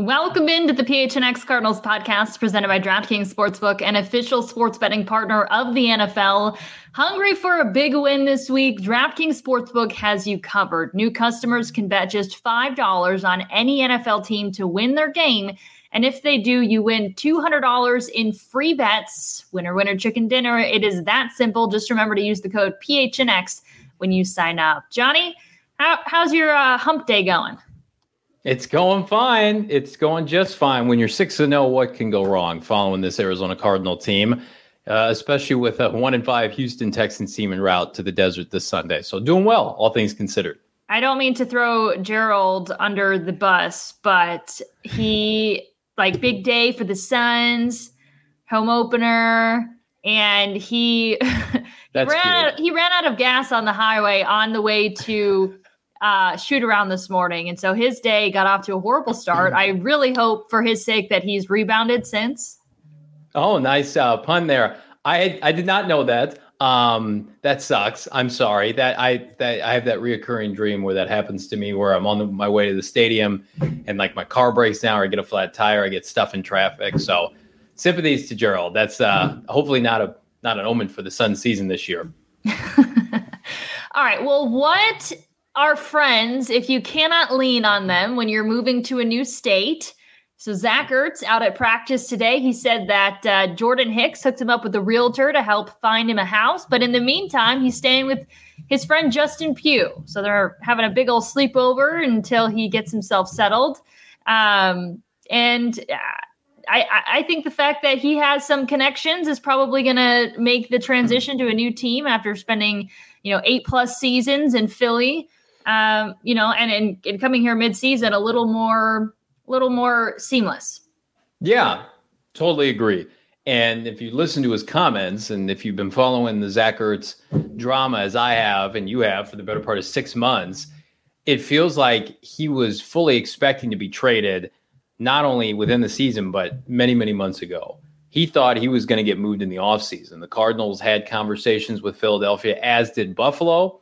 Welcome into the PHNX Cardinals podcast presented by DraftKings Sportsbook, an official sports betting partner of the NFL. Hungry for a big win this week? DraftKings Sportsbook has you covered. New customers can bet just $5 on any NFL team to win their game. And if they do, you win $200 in free bets. Winner, winner, chicken dinner. It is that simple. Just remember to use the code PHNX when you sign up. Johnny, how's your hump day going? It's going fine. It's going just fine. When you're 6-0, what can go wrong following this Arizona Cardinal team, especially with a 1-5 Houston Texans team en route to the desert this Sunday. So doing well, all things considered. I don't mean to throw Gerald under the bus, but he, big day for the Suns, home opener, and he ran out of gas on the highway on the way to shoot around this morning. And so his day got off to a horrible start. I really hope for his sake that he's rebounded since. Oh, nice pun there. I did not know that. That sucks. I'm sorry that I have that reoccurring dream where that happens to me, where I'm on my way to the stadium and my car breaks down, or I get a flat tire, I get stuck in traffic. So sympathies to Gerald. That's hopefully not an omen for the Suns season this year. All right. Well, what are friends if you cannot lean on them when you're moving to a new state? So Zach Ertz out at practice today. He said that Jordan Hicks hooked him up with a realtor to help find him a house. But in the meantime, he's staying with his friend Justin Pugh. So they're having a big old sleepover until he gets himself settled. I think the fact that he has some connections is probably going to make the transition to a new team after spending, 8+ seasons in Philly. And coming here mid-season, a little more seamless. Yeah, totally agree. And if you listen to his comments, and if you've been following the Zach Ertz drama as I have, and you have for the better part of 6 months, it feels like he was fully expecting to be traded, not only within the season, but many, many months ago. He thought he was going to get moved in the offseason. The Cardinals had conversations with Philadelphia, as did Buffalo.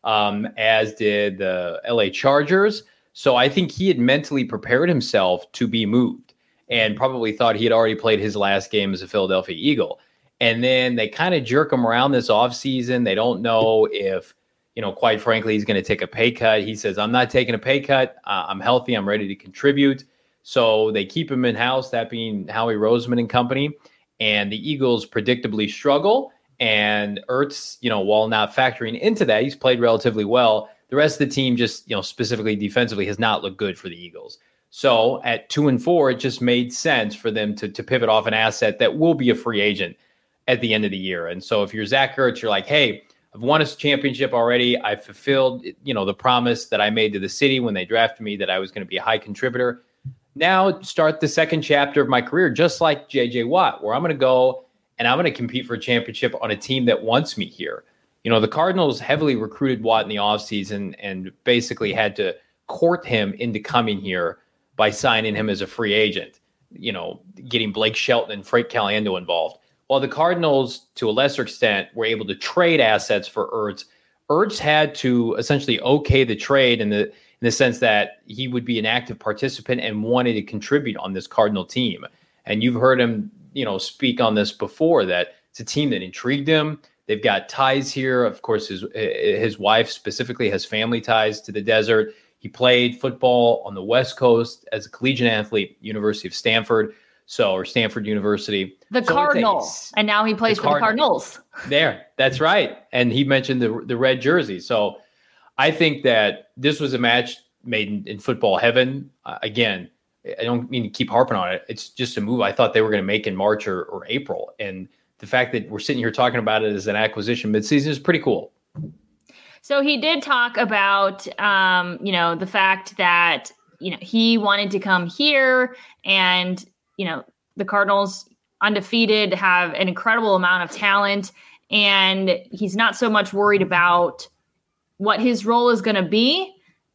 As did the LA Chargers. So I think he had mentally prepared himself to be moved and probably thought he had already played his last game as a Philadelphia Eagle. And then they kind of jerk him around this offseason. They don't know if, quite frankly, he's going to take a pay cut. He says, I'm not taking a pay cut. I'm healthy. I'm ready to contribute. So they keep him in-house, that being Howie Roseman and company. And the Eagles predictably struggle. And Ertz, while not factoring into that, he's played relatively well. The rest of the team just, specifically defensively, has not looked good for the Eagles. So at 2-4, it just made sense for them to pivot off an asset that will be a free agent at the end of the year. And so if you're Zach Ertz, you're like, hey, I've won a championship already. I fulfilled, the promise that I made to the city when they drafted me that I was going to be a high contributor. Now start the second chapter of my career, just like J.J. Watt, where I'm going to go and I'm going to compete for a championship on a team that wants me here. The Cardinals heavily recruited Watt in the offseason and basically had to court him into coming here by signing him as a free agent, getting Blake Shelton and Frank Caliendo involved. While the Cardinals, to a lesser extent, were able to trade assets for Ertz, Ertz had to essentially okay the trade in the sense that he would be an active participant and wanted to contribute on this Cardinal team. And you've heard him speak on this before, that it's a team that intrigued him. They've got ties here. Of course, his wife specifically has family ties to the desert. He played football on the West Coast as a collegiate athlete, University of Stanford, or Stanford University. The Cardinals. And now he plays for the Cardinals. That's right. And he mentioned the red jersey. So I think that this was a match made in football heaven. Again, I don't mean to keep harping on it. It's just a move I thought they were going to make in March or April. And the fact that we're sitting here talking about it as an acquisition midseason is pretty cool. So he did talk about, the fact that, he wanted to come here and, the Cardinals undefeated have an incredible amount of talent, and he's not so much worried about what his role is going to be.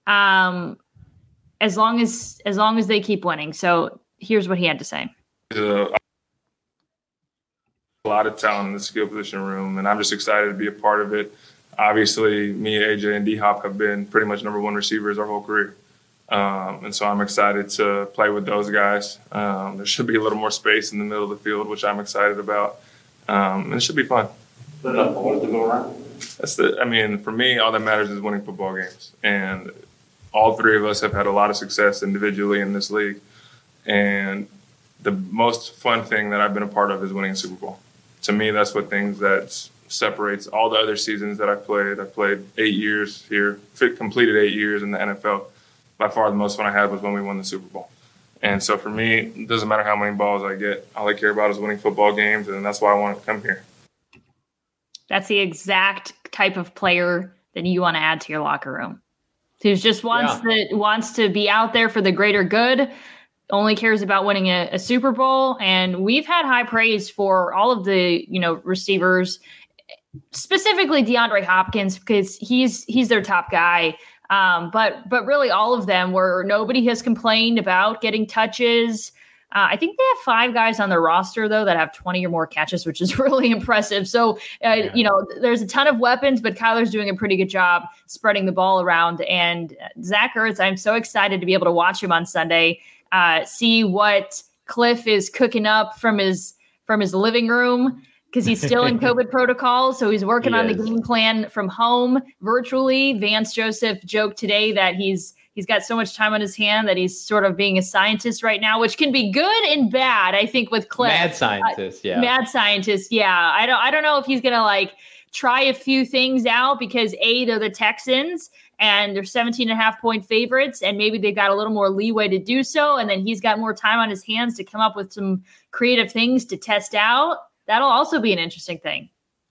As long as they keep winning. So here's what he had to say. A lot of talent in the skill position room, and I'm just excited to be a part of it. Obviously, me, AJ, and D-Hop have been pretty much number one receivers our whole career. And so I'm excited to play with those guys. There should be a little more space in the middle of the field, which I'm excited about. And it should be fun. Enough balls to go around. For me, all that matters is winning football games. And all three of us have had a lot of success individually in this league. And the most fun thing that I've been a part of is winning a Super Bowl. To me, that's what separates all the other seasons that I've played. I played 8 years here, completed 8 years in the NFL. By far the most fun I had was when we won the Super Bowl. And so for me, it doesn't matter how many balls I get. All I care about is winning football games, and that's why I want to come here. That's the exact type of player that you want to add to your locker room. Who's just wants to be out there for the greater good, only cares about winning a Super Bowl. And we've had high praise for all of the, receivers, specifically DeAndre Hopkins, because he's their top guy. But really all of them where nobody has complained about getting touches. I think they have 5 guys on their roster, though, that have 20 or more catches, which is really impressive. So, there's a ton of weapons, but Kyler's doing a pretty good job spreading the ball around. And Zach Ertz, I'm so excited to be able to watch him on Sunday, see what Cliff is cooking up from his living room, because he's still in COVID protocol. So he's working on the game plan from home virtually. Vance Joseph joked today that he's got so much time on his hand that he's sort of being a scientist right now, which can be good and bad, I think, with Cliff. Mad scientist, Mad scientist, yeah. I don't know if he's going to try a few things out because they're the Texans and they're 17.5-point favorites, and maybe they've got a little more leeway to do so. And then he's got more time on his hands to come up with some creative things to test out. That'll also be an interesting thing.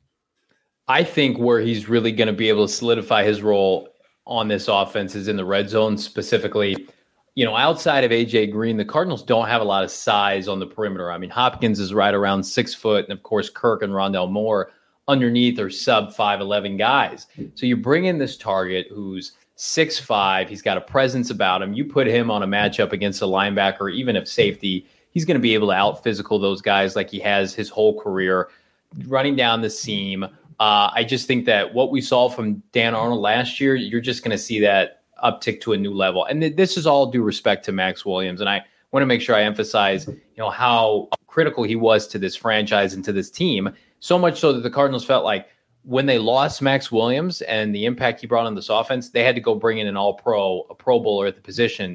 I think where he's really going to be able to solidify his role on this offense is in the red zone specifically. Outside of AJ Green, the Cardinals don't have a lot of size on the perimeter. I mean, Hopkins is right around 6 foot, and of course, Kirk and Rondale Moore underneath are sub 5'11" guys. So you bring in this target who's 6'5", he's got a presence about him. You put him on a matchup against a linebacker, even if safety, he's going to be able to out physical those guys like he has his whole career, running down the seam. I just think that what we saw from Dan Arnold last year, you're just going to see that uptick to a new level. And this is all due respect to Max Williams. And I want to make sure I emphasize, how critical he was to this franchise and to this team. So much so that the Cardinals felt like when they lost Max Williams and the impact he brought on this offense, they had to go bring in an all-pro, a Pro Bowler at the position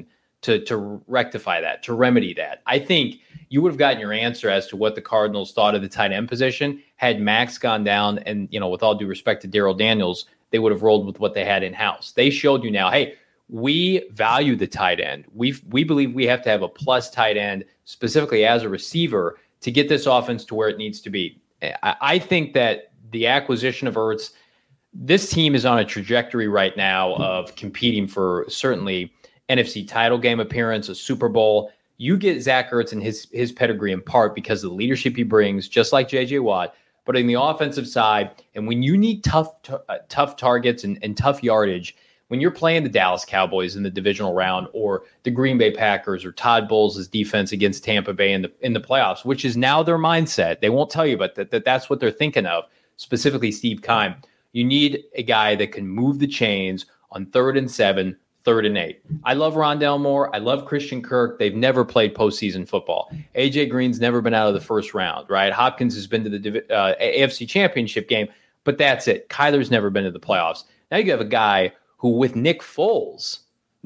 to rectify that, to remedy that. I think you would have gotten your answer as to what the Cardinals thought of the tight end position had Max gone down. And, with all due respect to Darrell Daniels, they would have rolled with what they had in-house. They showed you now, hey, we value the tight end. We believe we have to have a plus tight end, specifically as a receiver, to get this offense to where it needs to be. I think that the acquisition of Ertz, this team is on a trajectory right now of competing for certainly NFC title game appearance, a Super Bowl. You get Zach Ertz and his pedigree in part because of the leadership he brings, just like J.J. Watt. But in the offensive side, and when you need tough targets and tough yardage, when you're playing the Dallas Cowboys in the divisional round or the Green Bay Packers or Todd Bowles' defense against Tampa Bay in the playoffs, which is now their mindset. They won't tell you, but that's what they're thinking of, specifically Steve Keim. You need a guy that can move the chains on 3rd and 7, 3rd and 8. I love Rondale Moore. I love Christian Kirk. They've never played postseason football. AJ Green's never been out of the first round, right? Hopkins has been to the AFC Championship game, but that's it. Kyler's never been to the playoffs. Now you have a guy who, with Nick Foles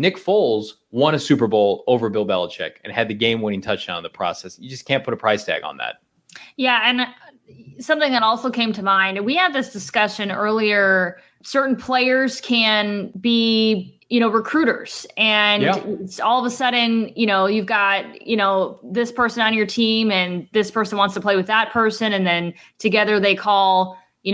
won a Super Bowl over Bill Belichick and had the game-winning touchdown in the process. You just can't put a price tag on that. Yeah, and something that also came to mind, we had this discussion earlier, certain players can be recruiters. And all of a sudden, you've got, this person on your team and this person wants to play with that person. And then together they call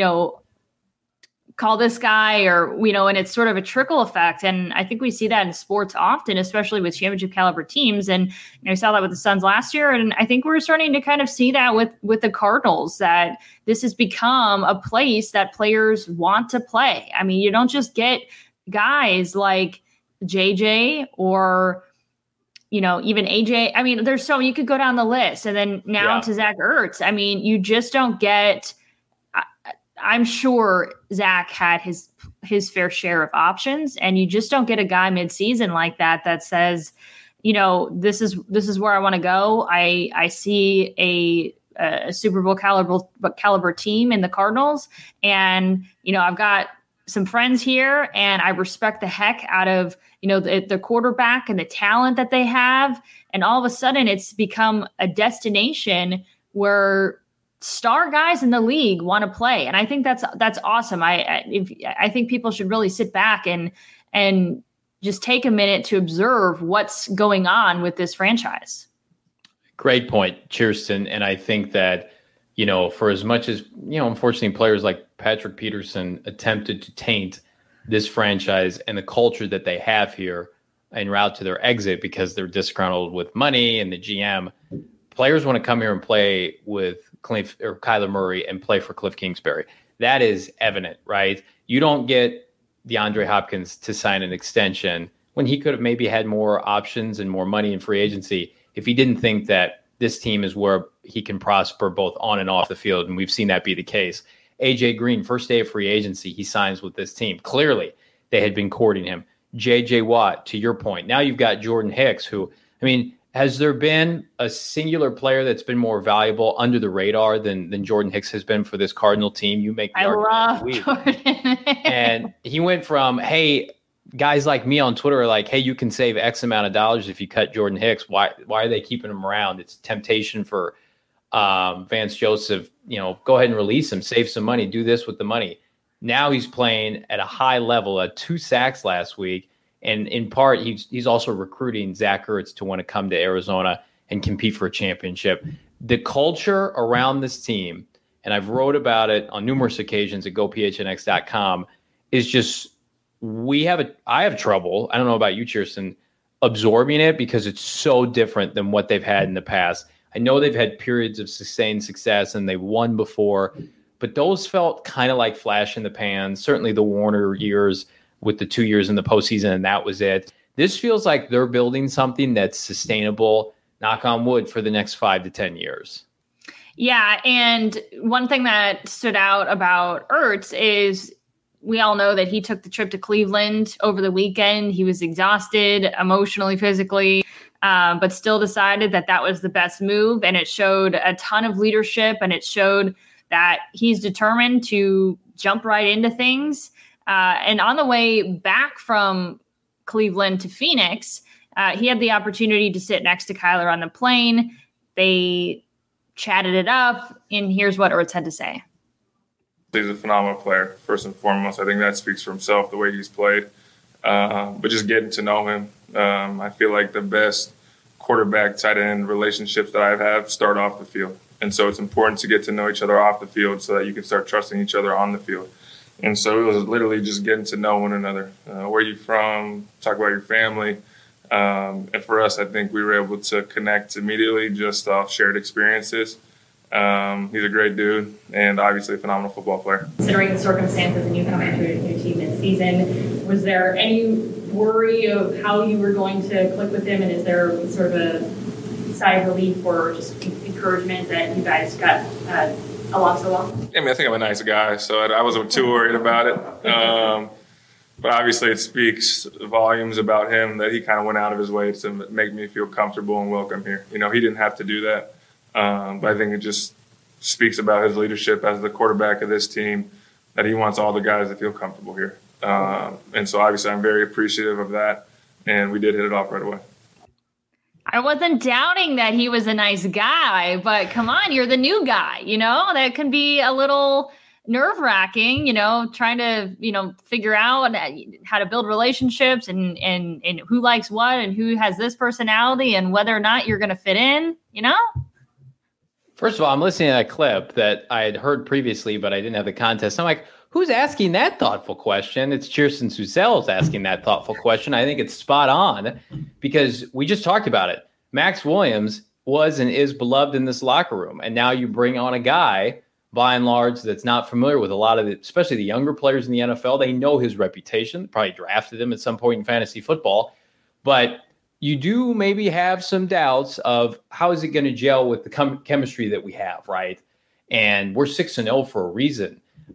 this guy and it's sort of a trickle effect. And I think we see that in sports often, especially with championship caliber teams. And we saw that with the Suns last year. And I think we're starting to kind of see that with the Cardinals, that this has become a place that players want to play. I mean, you don't just get guys like JJ or, even AJ. I mean, you could go down the list, and then now to Zach Ertz. I mean, you just don't get I'm sure Zach had his fair share of options, and you just don't get a guy midseason like that says, this is where I want to go. I see a Super Bowl caliber team in the Cardinals, and I've got some friends here, and I respect the heck out of the quarterback and the talent that they have, and all of a sudden it's become a destination where star guys in the league want to play, and I think that's awesome. I think people should really sit back and just take a minute to observe what's going on with this franchise. Great point, Kirsten. And I think that, for as much as, unfortunately players like Patrick Peterson attempted to taint this franchise and the culture that they have here en route to their exit because they're disgruntled with money and the GM, players want to come here and play with Kyler Murray and play for Cliff Kingsbury. That is evident, right? You don't get DeAndre Hopkins to sign an extension when he could have maybe had more options and more money in free agency if he didn't think that this team is where he can prosper both on and off the field. And we've seen that be the case. AJ Green, first day of free agency, he signs with this team. Clearly, they had been courting him. JJ Watt, to your point. Now you've got Jordan Hicks, who, has there been a singular player that's been more valuable under the radar than Jordan Hicks has been for this Cardinal team? You make the argument. I love Jordan. And he went from, hey, guys like me on Twitter are like, hey, you can save X amount of dollars if you cut Jordan Hicks. Why are they keeping him around? It's temptation for Vance Joseph. Go ahead and release him, save some money, do this with the money. Now he's playing at a high level, 2 sacks last week. And in part, he's also recruiting Zach Ertz to want to come to Arizona and compete for a championship. The culture around this team, and I've wrote about it on numerous occasions at gophnx.com, is just I have trouble. I don't know about you, Kirsten, absorbing it because it's so different than what they've had in the past. I know they've had periods of sustained success and they've won before, but those felt kind of like flash in the pan. Certainly the Warner years with the 2 years in the postseason, and that was it. This feels like they're building something that's sustainable, knock on wood, for the next 5 to 10 years. Yeah, and one thing that stood out about Ertz is we all know that he took the trip to Cleveland over the weekend. He was exhausted emotionally, physically, but still decided that was the best move, and it showed a ton of leadership, and it showed that he's determined to jump right into things. And on the way back from Cleveland to Phoenix, he had the opportunity to sit next to Kyler on the plane. They chatted it up, and here's what Ertz had to say. He's a phenomenal player, first and foremost. I think that speaks for himself, the way he's played. But just getting to know him, I feel like the best quarterback tight end relationships that I've had start off the field. And so it's important to get to know each other off the field so that you can start trusting each other on the field. And so it was literally just getting to know one another. Where you from? Talk about your family. And for us, I think we were able to connect immediately just off shared experiences. He's a great dude and obviously a phenomenal football player. Considering the circumstances and you come into a new team mid-season, was there any worry of how you were going to click with him? And is there sort of a sigh of relief or just encouragement that you guys got along so well? I think I'm a nice guy, so I wasn't too worried about it. But obviously it speaks volumes about him that he kind of went out of his way to make me feel comfortable and welcome here. He didn't have to do that. But I think it just speaks about his leadership as the quarterback of this team, that he wants all the guys to feel comfortable here. And so obviously I'm very appreciative of that, and we did hit it off right away. I wasn't doubting that he was a nice guy, but come on, you're the new guy, that can be a little nerve-wracking, trying to, figure out how to build relationships and who likes what and who has this personality and whether or not you're going to fit in, First of all, I'm listening to that clip that I had heard previously, but I didn't have the context. I'm like, who's asking that thoughtful question? It's Kirsten Susell's asking that thoughtful question. I think it's spot on because we just talked about it. Max Williams was and is beloved in this locker room. And now you bring on a guy, by and large, that's not familiar with a lot of it, especially the younger players in the NFL. They know his reputation, probably drafted him at some point in fantasy football. But you do maybe have some doubts of how is it going to gel with the chemistry that we have, right? And we're 6-0 for a reason.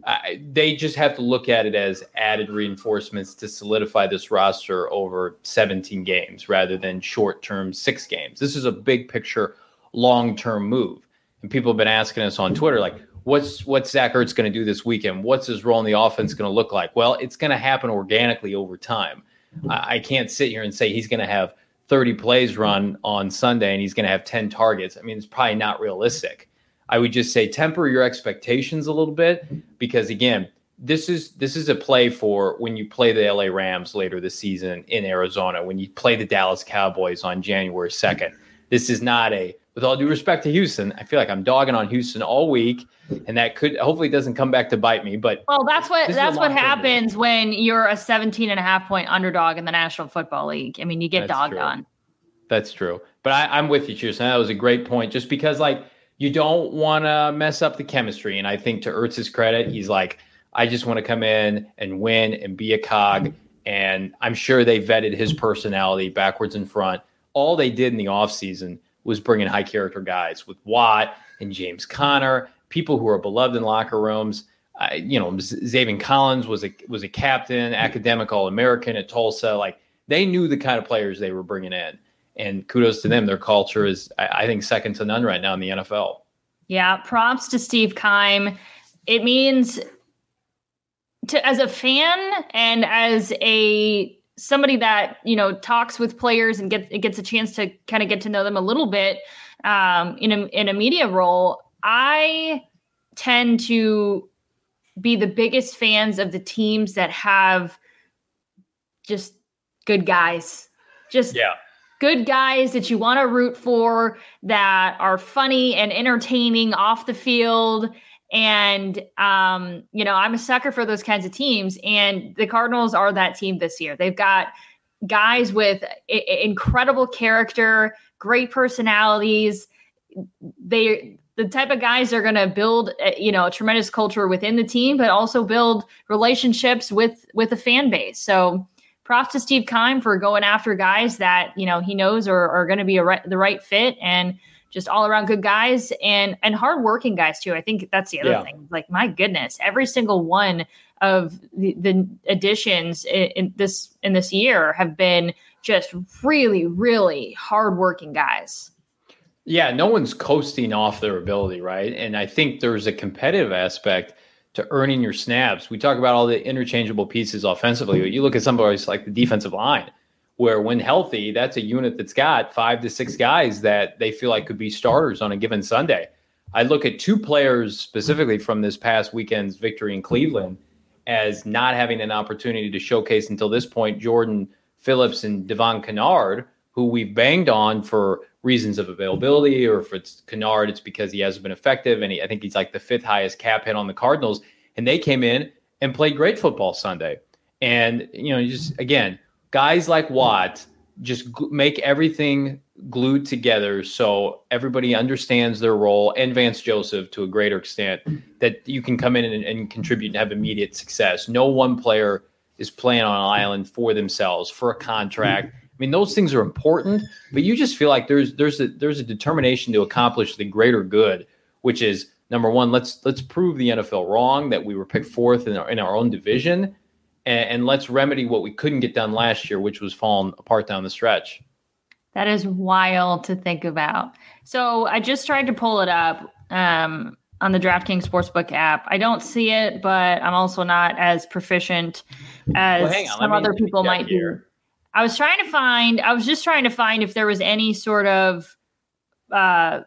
They just have to look at it as added reinforcements to solidify this roster over 17 games rather than short-term 6 games. This is a big picture, long-term move. And people have been asking us on Twitter, like, what's Zach Ertz going to do this weekend? What's his role in the offense going to look like? Well, it's going to happen organically over time. I can't sit here and say he's going to have 30 plays run on Sunday and he's going to have 10 targets. I mean, it's probably not realistic. I would just say temper your expectations a little bit because, again, this is a play for when you play the LA Rams later this season in Arizona, when you play the Dallas Cowboys on January 2nd. This is not with all due respect to Houston, I feel like I'm dogging on Houston all week, and that hopefully doesn't come back to bite me. But that's what happens when you're a 17.5-point underdog in the National Football League. I mean, you get dogged on. That's true. But I'm with you, Houston. That was a great point. Just because, like, you don't want to mess up the chemistry. And I think to Ertz's credit, he's like, I just want to come in and win and be a cog. And I'm sure they vetted his personality backwards and front. All they did in the offseason was bring in high character guys with Watt and James Conner, people who are beloved in locker rooms. Zaven Collins was a captain, academic All-American at Tulsa. Like, they knew the kind of players they were bringing in. And kudos to them. Their culture is, I think, second to none right now in the NFL. Yeah, props to Steve Keim. It means, as a fan and as somebody that talks with players and gets a chance to kind of get to know them a little bit in a media role, I tend to be the biggest fans of the teams that have just good guys. Good guys that you want to root for, that are funny and entertaining off the field. And, I'm a sucker for those kinds of teams. And the Cardinals are that team this year. They've got guys with incredible character, great personalities. They're the type of guys that are going to build, a tremendous culture within the team, but also build relationships with the fan base. So props to Steve Keim for going after guys that, he knows are going to be the right fit, and just all around good guys and hardworking guys too. I think that's the other thing. Like, my goodness, every single one of the additions in this year have been just really, really hardworking guys. Yeah, no one's coasting off their ability, right? And I think there's a competitive aspect to earning your snaps. We talk about all the interchangeable pieces offensively. You look at somebody like the defensive line, where when healthy, that's a unit that's got 5 to 6 guys that they feel like could be starters on a given Sunday. I look at 2 players specifically from this past weekend's victory in Cleveland as not having an opportunity to showcase until this point: Jordan Phillips and Devon Kennard, who we've banged on for reasons of availability, or if it's Kennard, it's because he hasn't been effective. And I think he's like the 5th highest cap hit on the Cardinals. And they came in and played great football Sunday. And, just again, guys like Watt just make everything glued together so everybody understands their role, and Vance Joseph to a greater extent, that you can come in and contribute and have immediate success. No one player is playing on an island for themselves, for a contract. I mean, those things are important, but you just feel like there's a determination to accomplish the greater good, which is, number one, let's prove the NFL wrong that we were picked 4th in our own division, and let's remedy what we couldn't get done last year, which was falling apart down the stretch. That is wild to think about. So I just tried to pull it up on the DraftKings Sportsbook app. I don't see it, but I'm also not as proficient as some other people might be. I was just trying to find if there was any sort of bet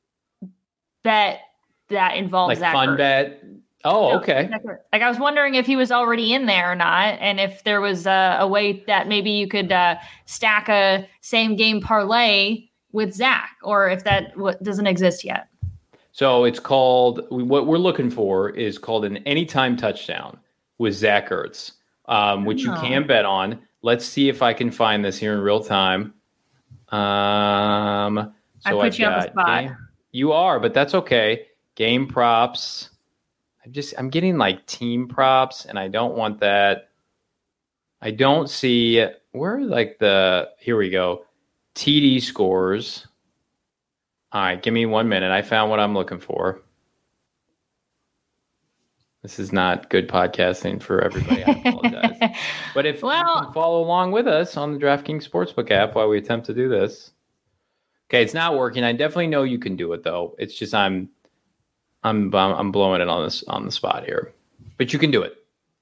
that involved like Zach fun Ertz. bet. Oh, okay. Like, I was wondering if he was already in there or not, and if there was a way that maybe you could stack a same game parlay with Zach, or if that doesn't exist yet. So it's called, what we're looking for is called an anytime touchdown with Zach Ertz, which you can bet on. Let's see if I can find this here in real time. So I put you on the spot. You are, but that's okay. Game props. I'm getting like team props, and I don't want that. I don't see where here we go. TD scores. All right, give me 1 minute. I found what I'm looking for. This is not good podcasting for everybody. I apologize. But if you can follow along with us on the DraftKings Sportsbook app while we attempt to do this. Okay, it's not working. I definitely know you can do it though. It's just I'm blowing it on the spot here. But you can do it.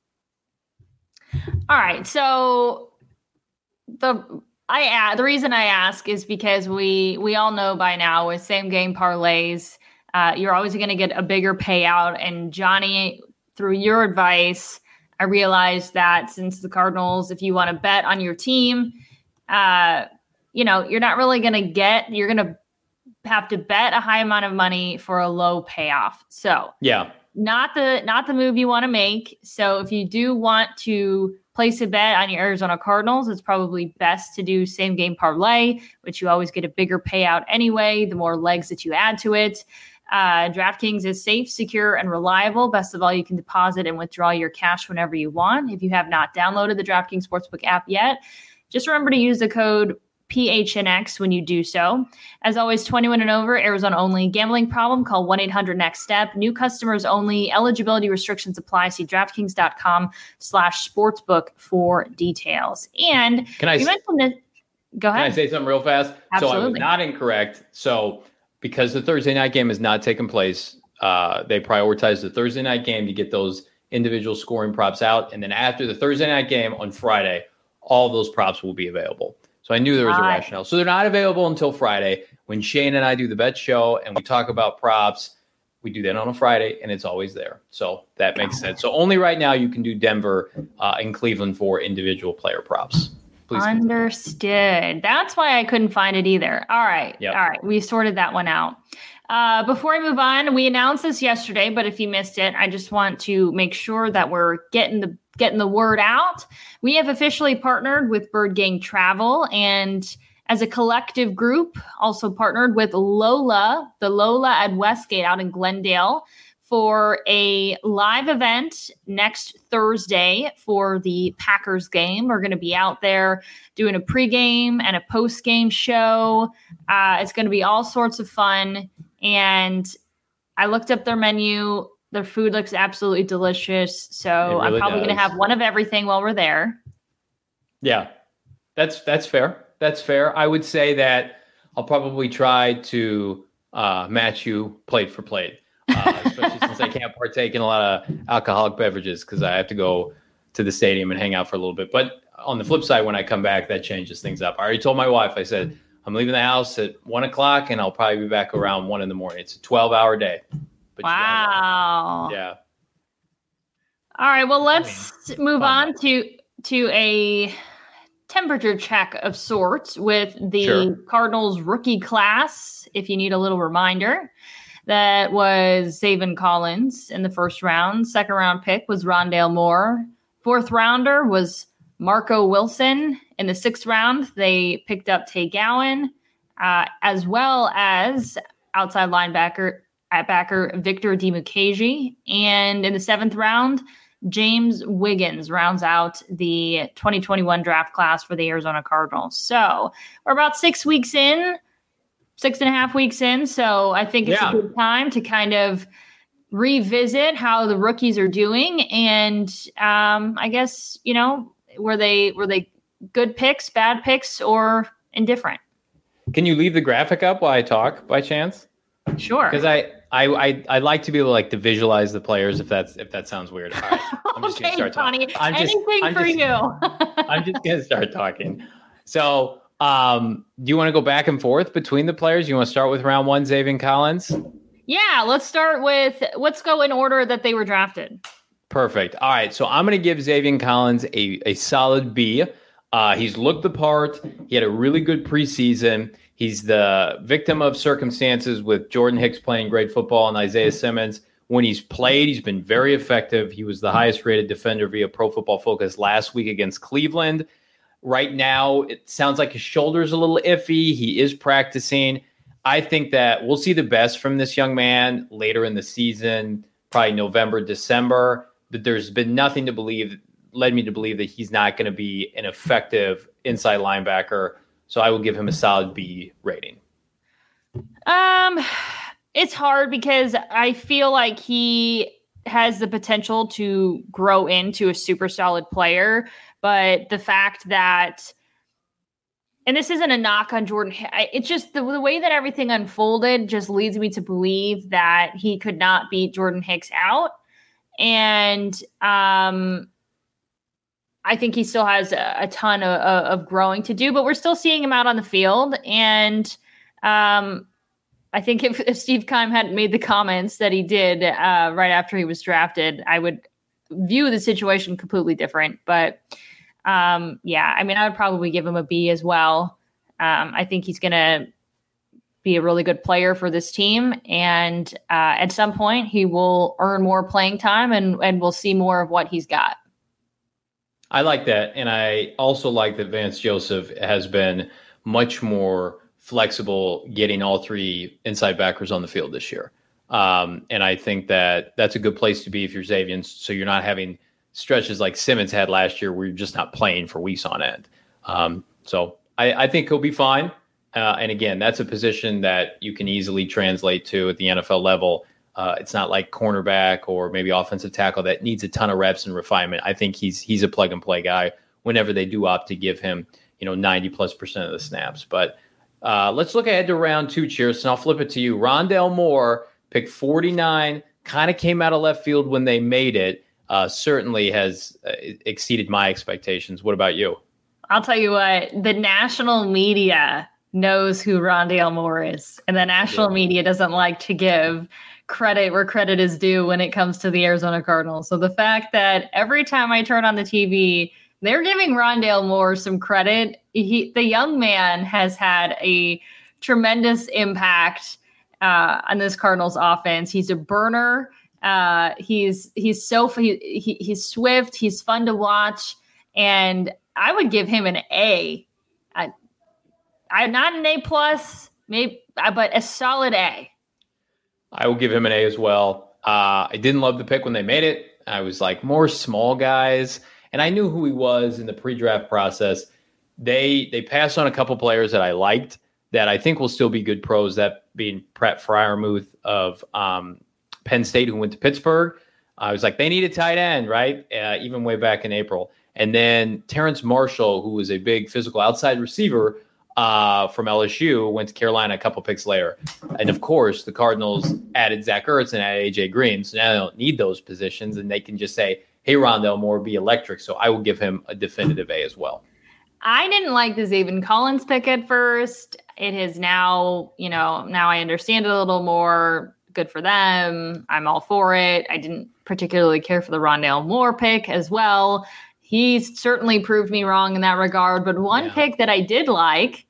All right. So the reason I ask is because we all know by now with same game parlays, you're always going to get a bigger payout. And Johnny, through your advice, I realized that since the Cardinals, if you want to bet on your team, you're not really going to you're going to have to bet a high amount of money for a low payoff. So yeah, not the move you want to make. So if you do want to place a bet on your Arizona Cardinals, it's probably best to do same game parlay, which you always get a bigger payout anyway, the more legs that you add to it. DraftKings is safe, secure, and reliable. Best of all, you can deposit and withdraw your cash whenever you want. If you have not downloaded the DraftKings Sportsbook app yet, just remember to use the code PHNX when you do so. As always, 21 and over, Arizona only. Gambling problem? Call 1-800-NEXT-STEP. New customers only. Eligibility restrictions apply. See DraftKings.com/sportsbook for details. And you mentioned that. Go ahead. Can I say something real fast? Absolutely. So I was not incorrect. So because the Thursday night game has not taken place, they prioritize the Thursday night game to get those individual scoring props out. And then after the Thursday night game on Friday, all those props will be available. So I knew there was a rationale. So they're not available until Friday. When Shane and I do the bet show and we talk about props, we do that on a Friday, and it's always there. So that makes sense. So only right now you can do Denver and Cleveland for individual player props. Please understood. Continue. That's why I couldn't find it either. All right. Yep. All right. We sorted that one out. Before I move on, we announced this yesterday, but if you missed it, I just want to make sure that we're getting the word out. We have officially partnered with Bird Gang Travel, and as a collective group, also partnered with Lola at Westgate out in Glendale for a live event next Thursday for the Packers game. We're going to be out there doing a pregame and a postgame show. It's going to be all sorts of fun. And I looked up their menu. Their food looks absolutely delicious. So really I'm probably going to have one of everything while we're there. Yeah, that's fair. That's fair. I would say that I'll probably try to match you plate for plate, especially since I can't partake in a lot of alcoholic beverages because I have to go to the stadium and hang out for a little bit. But on the flip side, when I come back, that changes things up. I already told my wife, I said, I'm leaving the house at 1:00 and I'll probably be back around 1 a.m. It's a 12-hour day. But wow. Yeah. All right. Well, let's move on to a temperature check of sorts with the Cardinals rookie class. If you need a little reminder, that was Zaven Collins in the first round. Second round pick was Rondale Moore. Fourth rounder was Marco Wilson. In the sixth round, they picked up Tay Gowan, as well as outside linebacker Victor Dimukeje. And in the seventh round, James Wiggins rounds out the 2021 draft class for the Arizona Cardinals. So we're about 6.5 weeks in. So I think it's a good time to kind of revisit how the rookies are doing. And I guess, were they good picks, bad picks, or indifferent? Can you leave the graphic up while I talk by chance? Sure. Because I like to be able to visualize the players if that sounds weird. All right. I'm just gonna start talking. Anything for you. I'm just gonna start talking. So do you want to go back and forth between the players? You want to start with round one, Zaven Collins? Yeah, let's go in order that they were drafted. Perfect. All right. So I'm going to give Zaven Collins a solid B. He's looked the part. He had a really good preseason. He's the victim of circumstances with Jordan Hicks playing great football and Isaiah Simmons. When he's played, he's been very effective. He was the highest rated defender via Pro Football Focus last week against Cleveland. Right now, it sounds like his shoulder's a little iffy. He is practicing. I think that we'll see the best from this young man later in the season, probably November, December. But there's been nothing led me to believe that he's not going to be an effective inside linebacker. So I will give him a solid B rating. It's hard because I feel like he has the potential to grow into a super solid player. But the fact that, and this isn't a knock on Jordan, it's just the way that everything unfolded just leads me to believe that he could not beat Jordan Hicks out. And I think he still has a ton of growing to do, but we're still seeing him out on the field. And I think if Steve Keim hadn't made the comments that he did right after he was drafted, I would view the situation completely different. But yeah, I mean, I would probably give him a B as well. I think he's going to be a really good player for this team. And at some point, he will earn more playing time and we'll see more of what he's got. I like that. And I also like that Vance Joseph has been much more flexible getting all three inside backers on the field this year. And I think that that's a good place to be if you're Xavier. So you're not having stretches like Simmons had last year where you're just not playing for weeks on end. So I think he'll be fine. And again, that's a position that you can easily translate to at the NFL level. It's not like cornerback or maybe offensive tackle that needs a ton of reps and refinement. I think he's a plug and play guy whenever they do opt to give him, 90+% of the snaps. But let's look ahead to round 2, Cheers, and I'll flip it to you. Rondale Moore, pick 49, kind of came out of left field when they made it. Certainly has exceeded my expectations. What about you? I'll tell you what, the national media knows who Rondale Moore is, and the national media doesn't like to give credit where credit is due when it comes to the Arizona Cardinals. So the fact that every time I turn on the TV, they're giving Rondale Moore some credit. The young man has had a tremendous impact on this Cardinals offense. He's a burner. He's swift. He's fun to watch, and I would give him an A. I'm not an A plus, maybe, but a solid A. I will give him an A as well. I didn't love the pick when they made it. I was like, more small guys. And I knew who he was in the pre-draft process. They passed on a couple players that I liked that I think will still be good pros, that being Pratt Freiermuth of Penn State, who went to Pittsburgh. I was like, they need a tight end, right? Even way back in April. And then Terrence Marshall, who was a big physical outside receiver from LSU, went to Carolina a couple picks later. And of course, the Cardinals added Zach Ertz and added AJ Green. So now they don't need those positions, and they can just say, hey, Rondale Moore, be electric. So I will give him a definitive A as well. I didn't like the Zaven Collins pick at first. It is now, now I understand it a little more. Good for them. I'm all for it. I didn't particularly care for the Rondale Moore pick as well. He's certainly proved me wrong in that regard. But one pick that I did like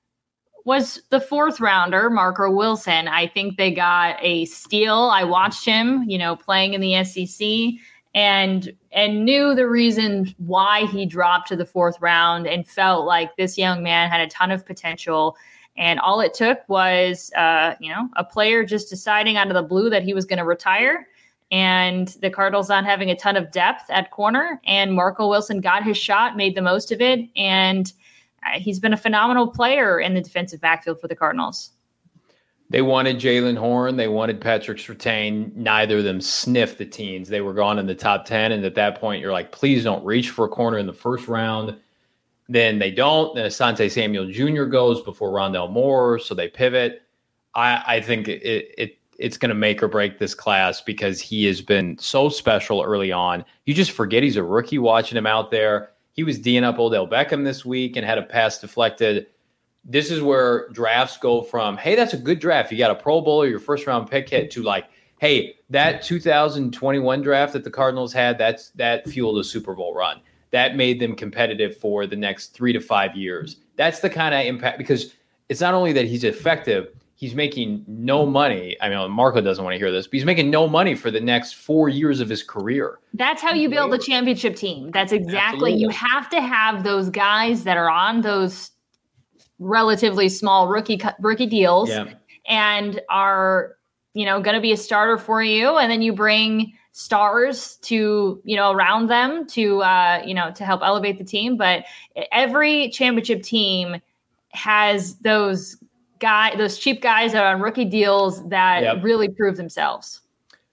was the 4th rounder, Marco Wilson. I think they got a steal. I watched him, playing in the SEC and knew the reason why he dropped to the 4th round and felt like this young man had a ton of potential. And all it took was, a player just deciding out of the blue that he was going to retire, and the Cardinals not having a ton of depth at corner. And Marco Wilson got his shot, made the most of it, and he's been a phenomenal player in the defensive backfield for the Cardinals. They wanted Jalen Horn. They wanted Patrick Surtain. Neither of them sniffed the teens. They were gone in the top 10. And at that point, you're like, please don't reach for a corner in the 1st round. Then they don't. Then Asante Samuel Jr. goes before Rondale Moore. So they pivot. I think it's going to make or break this class because he has been so special early on. You just forget he's a rookie watching him out there. He was D'ing up Odell Beckham this week and had a pass deflected. This is where drafts go from, hey, that's a good draft. You got a Pro Bowler, your 1st round pick hit, to like, hey, that 2021 draft that the Cardinals had, that fueled a Super Bowl run. That made them competitive for the next 3 to 5 years. That's the kind of impact, because it's not only that he's effective, he's making no money. I mean, Marco doesn't want to hear this, but he's making no money for the next 4 years of his career. That's how you build a championship team. That's exactly. Absolutely. You have to have those guys that are on those relatively small rookie deals and are, going to be a starter for you. And then you bring stars to, around them to help elevate the team. But every championship team has those cheap guys that are on rookie deals that really prove themselves.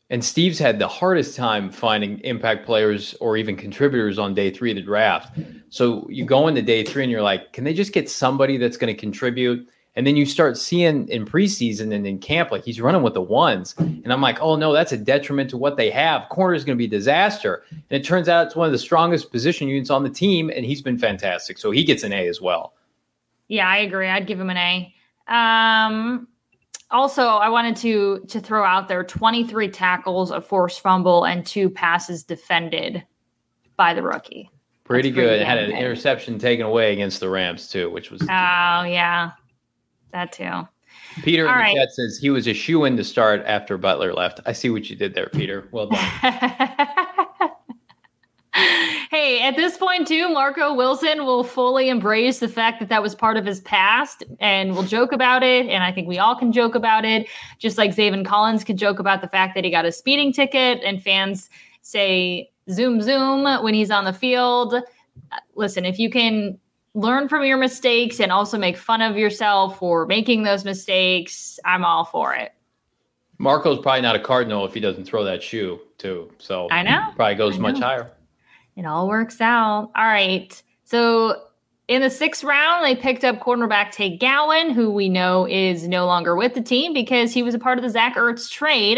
And Steve's had the hardest time finding impact players or even contributors on day 3 of the draft. So you go into day 3 and you're like, can they just get somebody that's going to contribute? And then you start seeing in preseason and in camp, like he's running with the ones. And I'm like, oh no, that's a detriment to what they have. Corner is going to be a disaster. And it turns out it's one of the strongest position units on the team. And he's been fantastic. So he gets an A as well. Yeah, I agree. I'd give him an A. Also, I wanted to throw out there 23 tackles, a forced fumble, and 2 passes defended by the rookie. Pretty good. Had an interception taken away against the Rams, too, which was. Oh, yeah. That, too. Peter in the chat says he was a shoo-in to start after Butler left. I see what you did there, Peter. Well done. Hey, at this point, too, Marco Wilson will fully embrace the fact that was part of his past and will joke about it. And I think we all can joke about it, just like Zaven Collins could joke about the fact that he got a speeding ticket and fans say, zoom, zoom, when he's on the field. Listen, if you can learn from your mistakes and also make fun of yourself for making those mistakes, I'm all for it. Marco's probably not a Cardinal if he doesn't throw that shoe, too. So I know. Probably goes much higher. It all works out. All right. So in the 6th round, they picked up cornerback Tay Gowan, who we know is no longer with the team because he was a part of the Zach Ertz trade.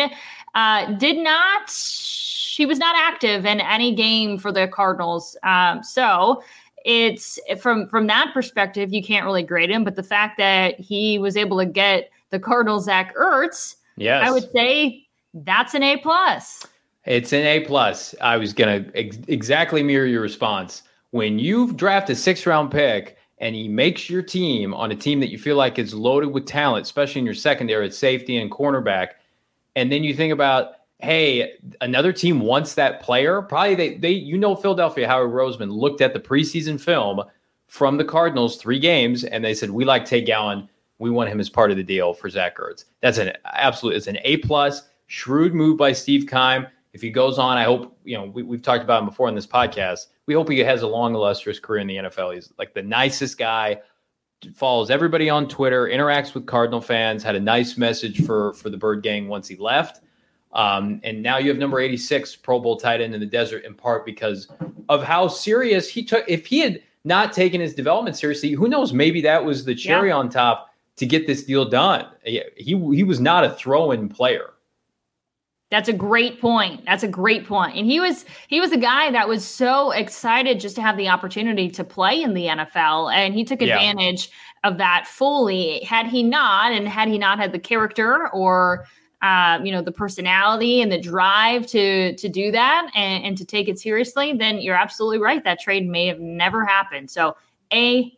He was not active in any game for the Cardinals. So it's from that perspective, you can't really grade him. But the fact that he was able to get the Cardinals Zach Ertz, yes, I would say that's an A+. It's an A+. I was going to exactly mirror your response. When you draft a 6th-round pick and he makes your team on a team that you feel like is loaded with talent, especially in your secondary at safety and cornerback, and then you think about, hey, another team wants that player, probably Philadelphia, Howard Roseman looked at the preseason film from the Cardinals 3 games, and they said, we like Tay Gowan. We want him as part of the deal for Zach Ertz. It's an A+, shrewd move by Steve Keim. If he goes on, I hope, we've talked about him before in this podcast. We hope he has a long, illustrious career in the NFL. He's like the nicest guy, follows everybody on Twitter, interacts with Cardinal fans, had a nice message for the Bird Gang once he left. And now you have number 86 Pro Bowl tight end in the desert, in part because of how serious he took. If he had not taken his development seriously, who knows, maybe that was the cherry on top to get this deal done. He was not a throw-in player. That's a great point. And he was a guy that was so excited just to have the opportunity to play in the NFL. And he took advantage of that fully. Had he not had the character or, the personality and the drive to do that and to take it seriously, then you're absolutely right. That trade may have never happened. So A+.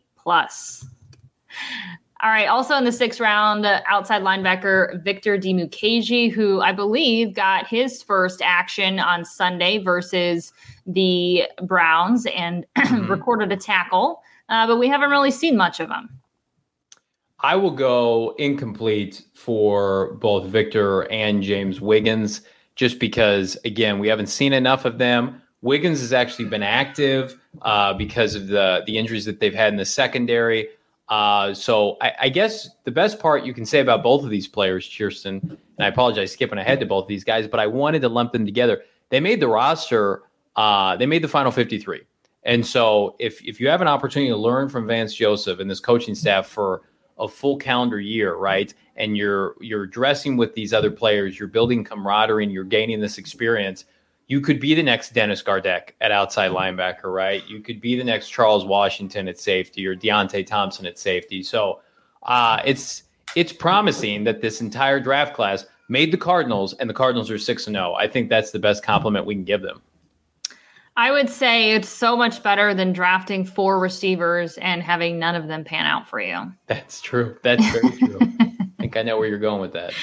All right. Also in the 6th round, outside linebacker Victor Dimukeje, who I believe got his first action on Sunday versus the Browns and recorded a tackle, but we haven't really seen much of him. I will go incomplete for both Victor and James Wiggins, just because, again, we haven't seen enough of them. Wiggins has actually been active because of the injuries that they've had in the secondary. So I guess the best part you can say about both of these players, Kirsten, and I apologize skipping ahead to both of these guys, but I wanted to lump them together. They made the roster. They made the final 53. And so if you have an opportunity to learn from Vance Joseph and this coaching staff for a full calendar year, right, and you're dressing with these other players, you're building camaraderie and you're gaining this experience, you could be the next Dennis Gardeck at outside linebacker, right? You could be the next Charles Washington at safety or Deontay Thompson at safety. So it's promising that this entire draft class made the Cardinals, and the Cardinals are 6-0. I think that's the best compliment we can give them. I would say it's so much better than drafting 4 receivers and having none of them pan out for you. That's true. That's very true. I think I know where you're going with that.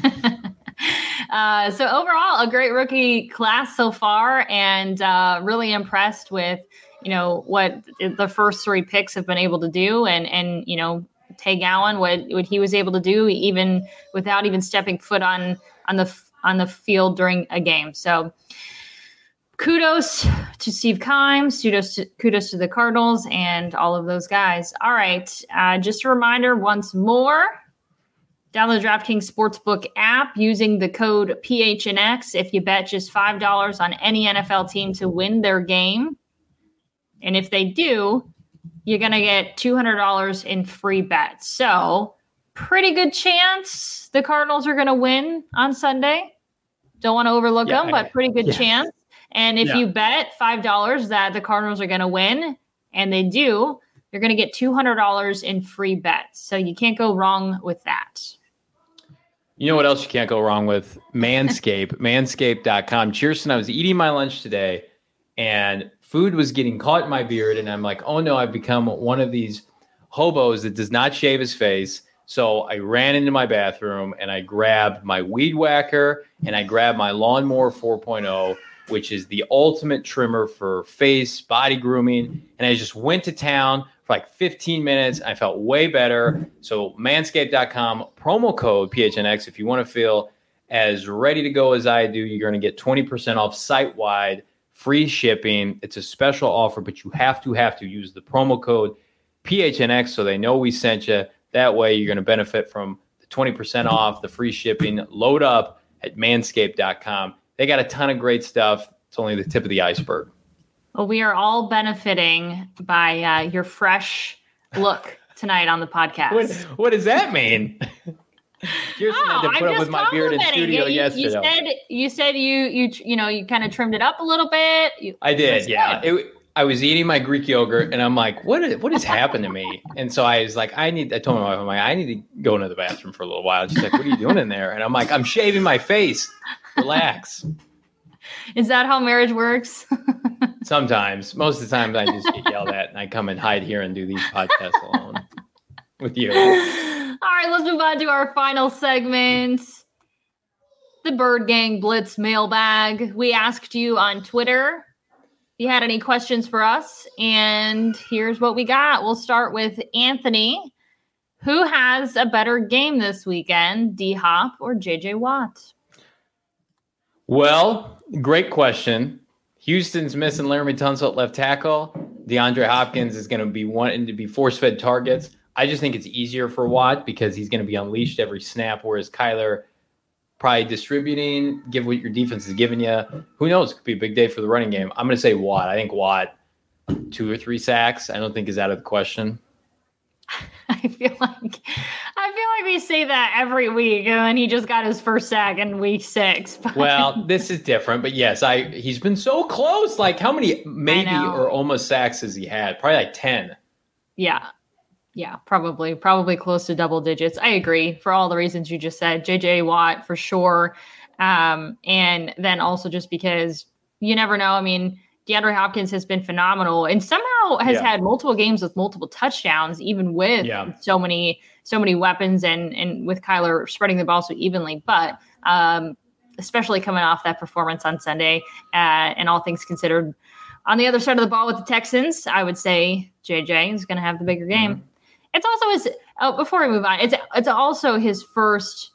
So overall, a great rookie class so far, and really impressed with, what the first 3 picks have been able to do, and Tay Gowan, what he was able to do, even without even stepping foot on the field during a game. So kudos to Steve Keim, kudos to the Cardinals and all of those guys. All right. Just a reminder once more, Download the DraftKings Sportsbook app using the code PHNX if you bet just $5 on any NFL team to win their game. And if they do, you're going to get $200 in free bets. So pretty good chance the Cardinals are going to win on Sunday. Don't want to overlook them, but pretty good chance. And if you bet $5 that the Cardinals are going to win, and they do, you're going to get $200 in free bets. So you can't go wrong with that. You know what else you can't go wrong with? Manscaped, manscaped.com. Cheerson, I was eating my lunch today and food was getting caught in my beard. And I'm like, oh no, I've become one of these hobos that does not shave his face. So I ran into my bathroom and I grabbed my weed whacker and I grabbed my Lawnmower 4.0, which is the ultimate trimmer for face, body grooming. And I just went to town for like 15 minutes. I felt way better. So manscaped.com, promo code PHNX. If you want to feel as ready to go as I do, you're going to get 20% off site-wide, free shipping. It's a special offer, but you have to use the promo code PHNX so they know we sent you. That way you're going to benefit from the 20% off, the free shipping. Load up at manscaped.com. They got a ton of great stuff. It's only the tip of the iceberg. Well, we are all benefiting by your fresh look tonight on the podcast. What does that mean? Kirsten had to put up with my beard in studio yesterday. You said you kind of trimmed it up a little bit. I did, yeah. I was eating my Greek yogurt, and I'm like, what has happened to me? And so I was like, I told my wife, I'm like, I need to go into the bathroom for a little while. And she's like, what are you doing in there? And I'm like, I'm shaving my face. Relax. Is that how marriage works? Sometimes. Most of the time I just get yelled at and I come and hide here and do these podcasts alone with you. All right, let's move on to our final segment. The Bird Gang Blitz mailbag. We asked you on Twitter if you had any questions for us, and here's what we got. We'll start with Anthony. Who has a better game this weekend, D-Hop or J.J. Watt? Well, great question. Houston's missing Laramie Tunsil at left tackle. DeAndre Hopkins is going to be wanting to be force-fed targets. I just think it's easier for Watt because he's going to be unleashed every snap, whereas Kyler probably distributing, give what your defense is giving you. Who knows? It could be a big day for the running game. I'm going to say Watt. I think Watt, 2 or 3 sacks, I don't think is out of the question. I feel like we say that every week, and then he just got his first sack in week 6. But... Well, this is different, but yes, he's been so close. Like, how many maybe or almost sacks has he had? Probably like 10. Yeah, probably close to double digits. I agree for all the reasons you just said. J.J. Watt for sure, and then also just because you never know. I mean, DeAndre Hopkins has been phenomenal and somehow has had multiple games with multiple touchdowns, even with so many weapons and with Kyler spreading the ball so evenly. But especially coming off that performance on Sunday, and all things considered, on the other side of the ball with the Texans, I would say JJ is going to have the bigger game. Mm-hmm. It's also his. Before we move on, it's also his first.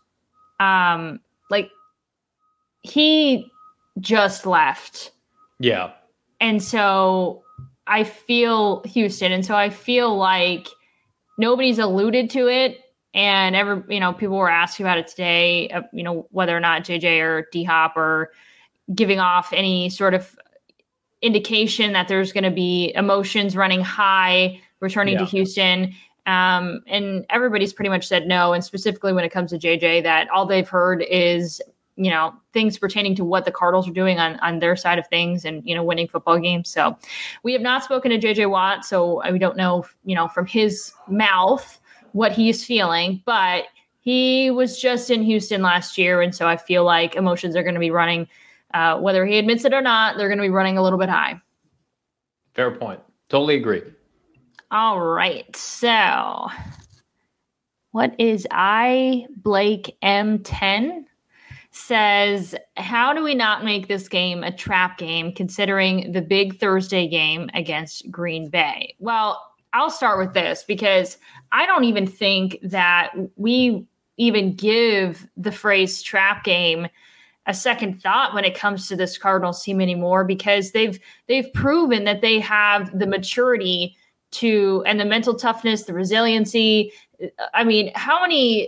He just left. Yeah. And so I feel Houston. And so I feel like nobody's alluded to it. And people were asking about it today, whether or not JJ or D-Hop are giving off any sort of indication that there's going to be emotions running high, returning to Houston. And everybody's pretty much said no. And specifically when it comes to JJ, that all they've heard is, things pertaining to what the Cardinals are doing on their side of things and, winning football games. So we have not spoken to JJ Watt. So we don't know, from his mouth what he's feeling, but he was just in Houston last year. And so I feel like emotions are going to be running, whether he admits it or not, they're going to be running a little bit high. Fair point. Totally agree. All right. So what is Blake M10 says, how do we not make this game a trap game considering the big Thursday game against Green Bay? Well, I'll start with this because I don't even think that we even give the phrase trap game a second thought when it comes to this Cardinals team anymore, because they've proven that they have the maturity and the mental toughness, the resiliency. I mean, how many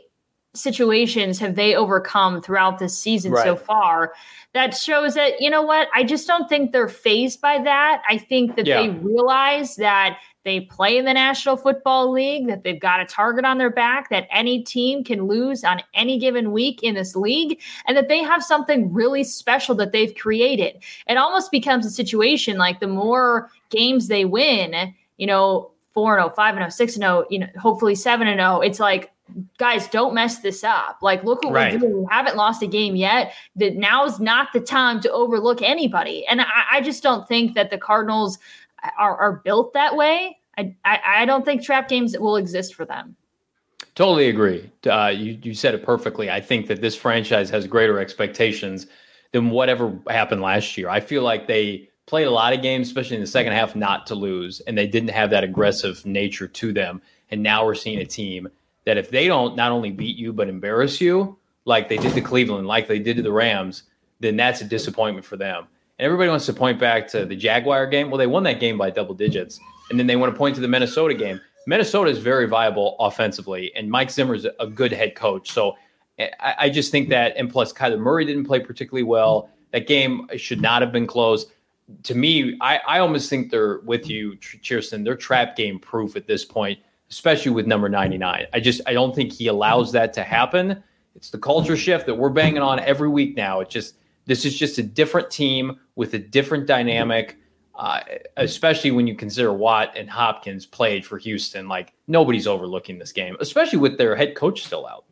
situations have they overcome throughout this season so far that shows that, you know what, I just don't think they're fazed by that. I think that they realize that they play in the National Football League, that they've got a target on their back, that any team can lose on any given week in this league, and that they have something really special that they've created. It almost becomes a situation like the more games they win, 4-0, 5-0, 6-0, hopefully 7-0, it's like, guys, don't mess this up. Like, look what we're doing. We haven't lost a game yet. That now's not the time to overlook anybody. And I just don't think that the Cardinals are built that way. I don't think trap games will exist for them. Totally agree. You said it perfectly. I think that this franchise has greater expectations than whatever happened last year. I feel like they played a lot of games, especially in the second half, not to lose, and they didn't have that aggressive nature to them. And now we're seeing a team that if they don't not only beat you, but embarrass you, like they did to Cleveland, like they did to the Rams, then that's a disappointment for them. And everybody wants to point back to the Jaguar game. Well, they won that game by double digits. And then they want to point to the Minnesota game. Minnesota is very viable offensively, and Mike Zimmer is a good head coach. So I just think that, and plus Kyler Murray didn't play particularly well. That game should not have been close. To me, I almost think they're with you, Chierstin. They're trap game proof at this point, especially with number 99. I don't think he allows that to happen. It's the culture shift that we're banging on every week now. This is just a different team with a different dynamic, especially when you consider Watt and Hopkins played for Houston. Like, nobody's overlooking this game, especially with their head coach still out.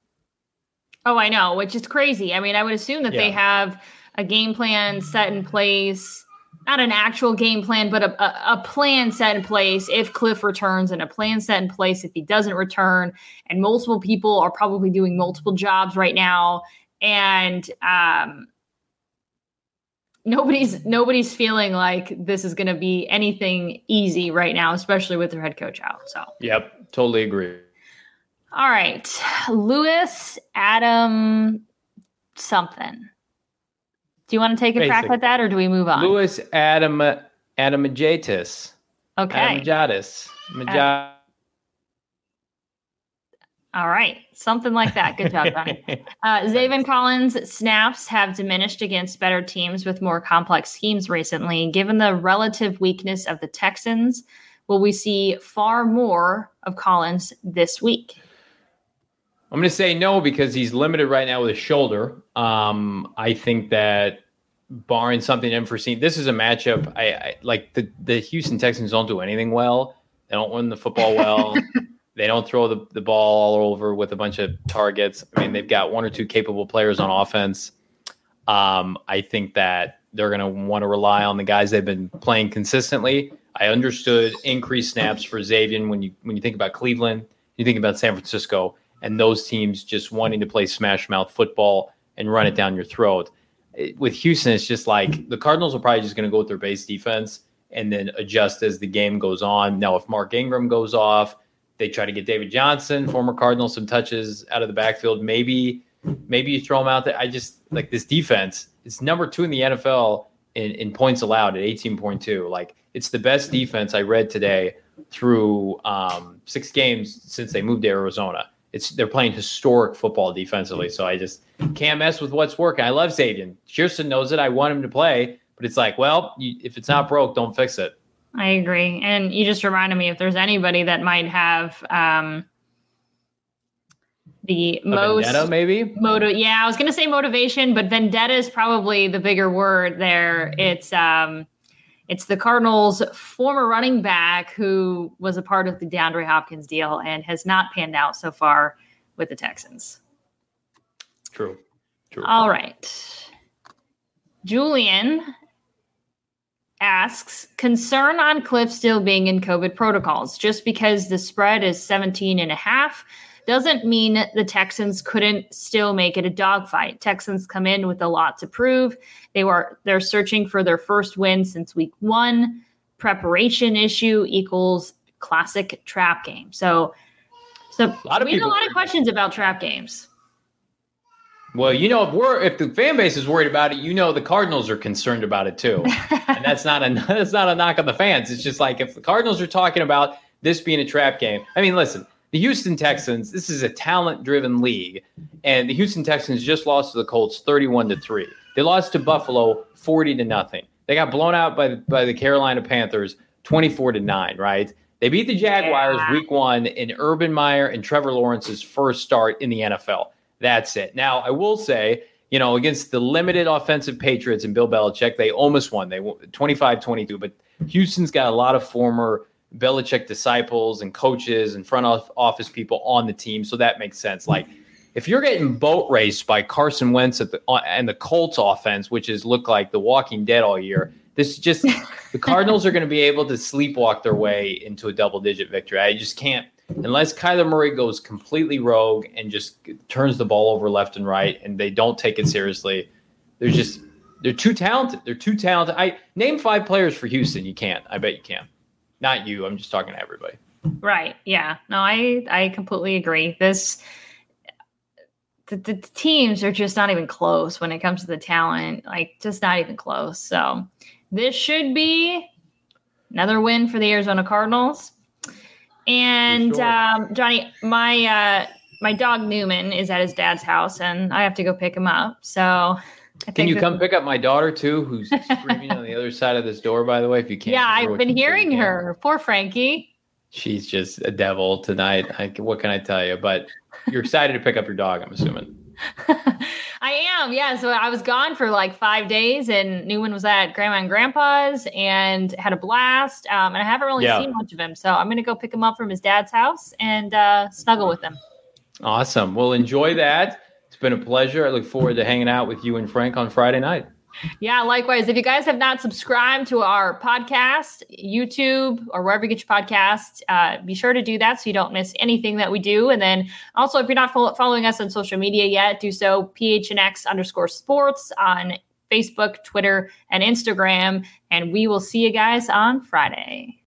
Oh, I know, which is crazy. I mean, I would assume that they have a game plan set in place. Not an actual game plan, but a plan set in place if Cliff returns, and a plan set in place if he doesn't return. And multiple people are probably doing multiple jobs right now. And nobody's feeling like this is going to be anything easy right now, especially with their head coach out. So, yep, totally agree. All right. Lewis, Adam, something. Do you want to take a crack at that, or do we move on? Lewis Adamajatis. Okay. Adamajatis. All right. Something like that. Good job, Brian. Zaven Collins' snaps have diminished against better teams with more complex schemes recently. Given the relative weakness of the Texans, will we see far more of Collins this week? I'm going to say no, because he's limited right now with his shoulder. I think that barring something unforeseen, this is a matchup. I like the Houston Texans don't do anything well. They don't win the football well. They don't throw the ball all over with a bunch of targets. I mean, they've got one or two capable players on offense. I think that they're going to want to rely on the guys they've been playing consistently. I understood increased snaps for Xavier when you think about Cleveland, you think about San Francisco, and those teams just wanting to play smash mouth football and run it down your throat. With Houston, it's just like the Cardinals are probably just going to go with their base defense and then adjust as the game goes on. Now, if Mark Ingram goes off, they try to get David Johnson, former Cardinal, some touches out of the backfield. Maybe you throw him out there. I just like this defense. It's number 2 in the NFL in points allowed at 18.2. Like, it's the best defense I read today through 6 games since they moved to Arizona. They're playing historic football defensively, so I just can't mess with what's working. I love Xavier. Chierstin knows it. I want him to play, but it's like, well, if it's not broke, don't fix it. I agree. And you just reminded me, if there's anybody that might have the most vendetta, maybe? I was going to say motivation, but vendetta is probably the bigger word there. It's the Cardinals' former running back who was a part of the DeAndre Hopkins deal and has not panned out so far with the Texans. True. All right. Julian asks, concern on Cliff still being in COVID protocols. Just because the spread is 17.5 doesn't mean the Texans couldn't still make it a dogfight. Texans come in with a lot to prove. They're searching for their first win since week 1. Preparation issue equals classic trap game. So we have a lot of questions about trap games. Well, if the fan base is worried about it, the Cardinals are concerned about it too. And that's not a knock on the fans. It's just like, if the Cardinals are talking about this being a trap game. I mean, listen, the Houston Texans, this is a talent-driven league, and the Houston Texans just lost to the Colts 31-3. They lost to Buffalo 40-0. They got blown out by the Carolina Panthers 24-9, right? They beat the Jaguars week 1 in Urban Meyer and Trevor Lawrence's first start in the NFL. That's it. Now, I will say, against the limited offensive Patriots and Bill Belichick, they almost won. They won 25-22, but Houston's got a lot of former Belichick disciples and coaches and front office people on the team, so that makes sense. Like, if you're getting boat raced by Carson Wentz and the Colts offense, which has looked like the Walking Dead all year, the Cardinals are going to be able to sleepwalk their way into a double-digit victory. I just can't, unless Kyler Murray goes completely rogue and just turns the ball over left and right, and they don't take it seriously. They're too talented. They're too talented. Name 5 players for Houston. You can't. I bet you can. Not you. I'm just talking to everybody. Right. Yeah. No, I completely agree. The teams are just not even close when it comes to the talent. Like, just not even close. So this should be another win for the Arizona Cardinals. And sure. Johnny, my dog Newman is at his dad's house, and I have to go pick him up. So can you come pick up my daughter too, who's screaming on the other side of this door, by the way, if you can't? Yeah, I've been hearing her. Poor Frankie. She's just a devil tonight. What can I tell you? But you're excited to pick up your dog, I'm assuming. I am, yeah. So I was gone for like 5 days, and Newman was at Grandma and Grandpa's and had a blast. And I haven't really seen much of him. So I'm going to go pick him up from his dad's house and snuggle with him. Awesome. Well, enjoy that. It's been a pleasure. I look forward to hanging out with you and Frank on Friday night. Yeah, likewise. If you guys have not subscribed to our podcast, YouTube, or wherever you get your podcasts, be sure to do that so you don't miss anything that we do. And then also, if you're not following us on social media yet, do so PHNX_sports on Facebook, Twitter, and Instagram. And we will see you guys on Friday.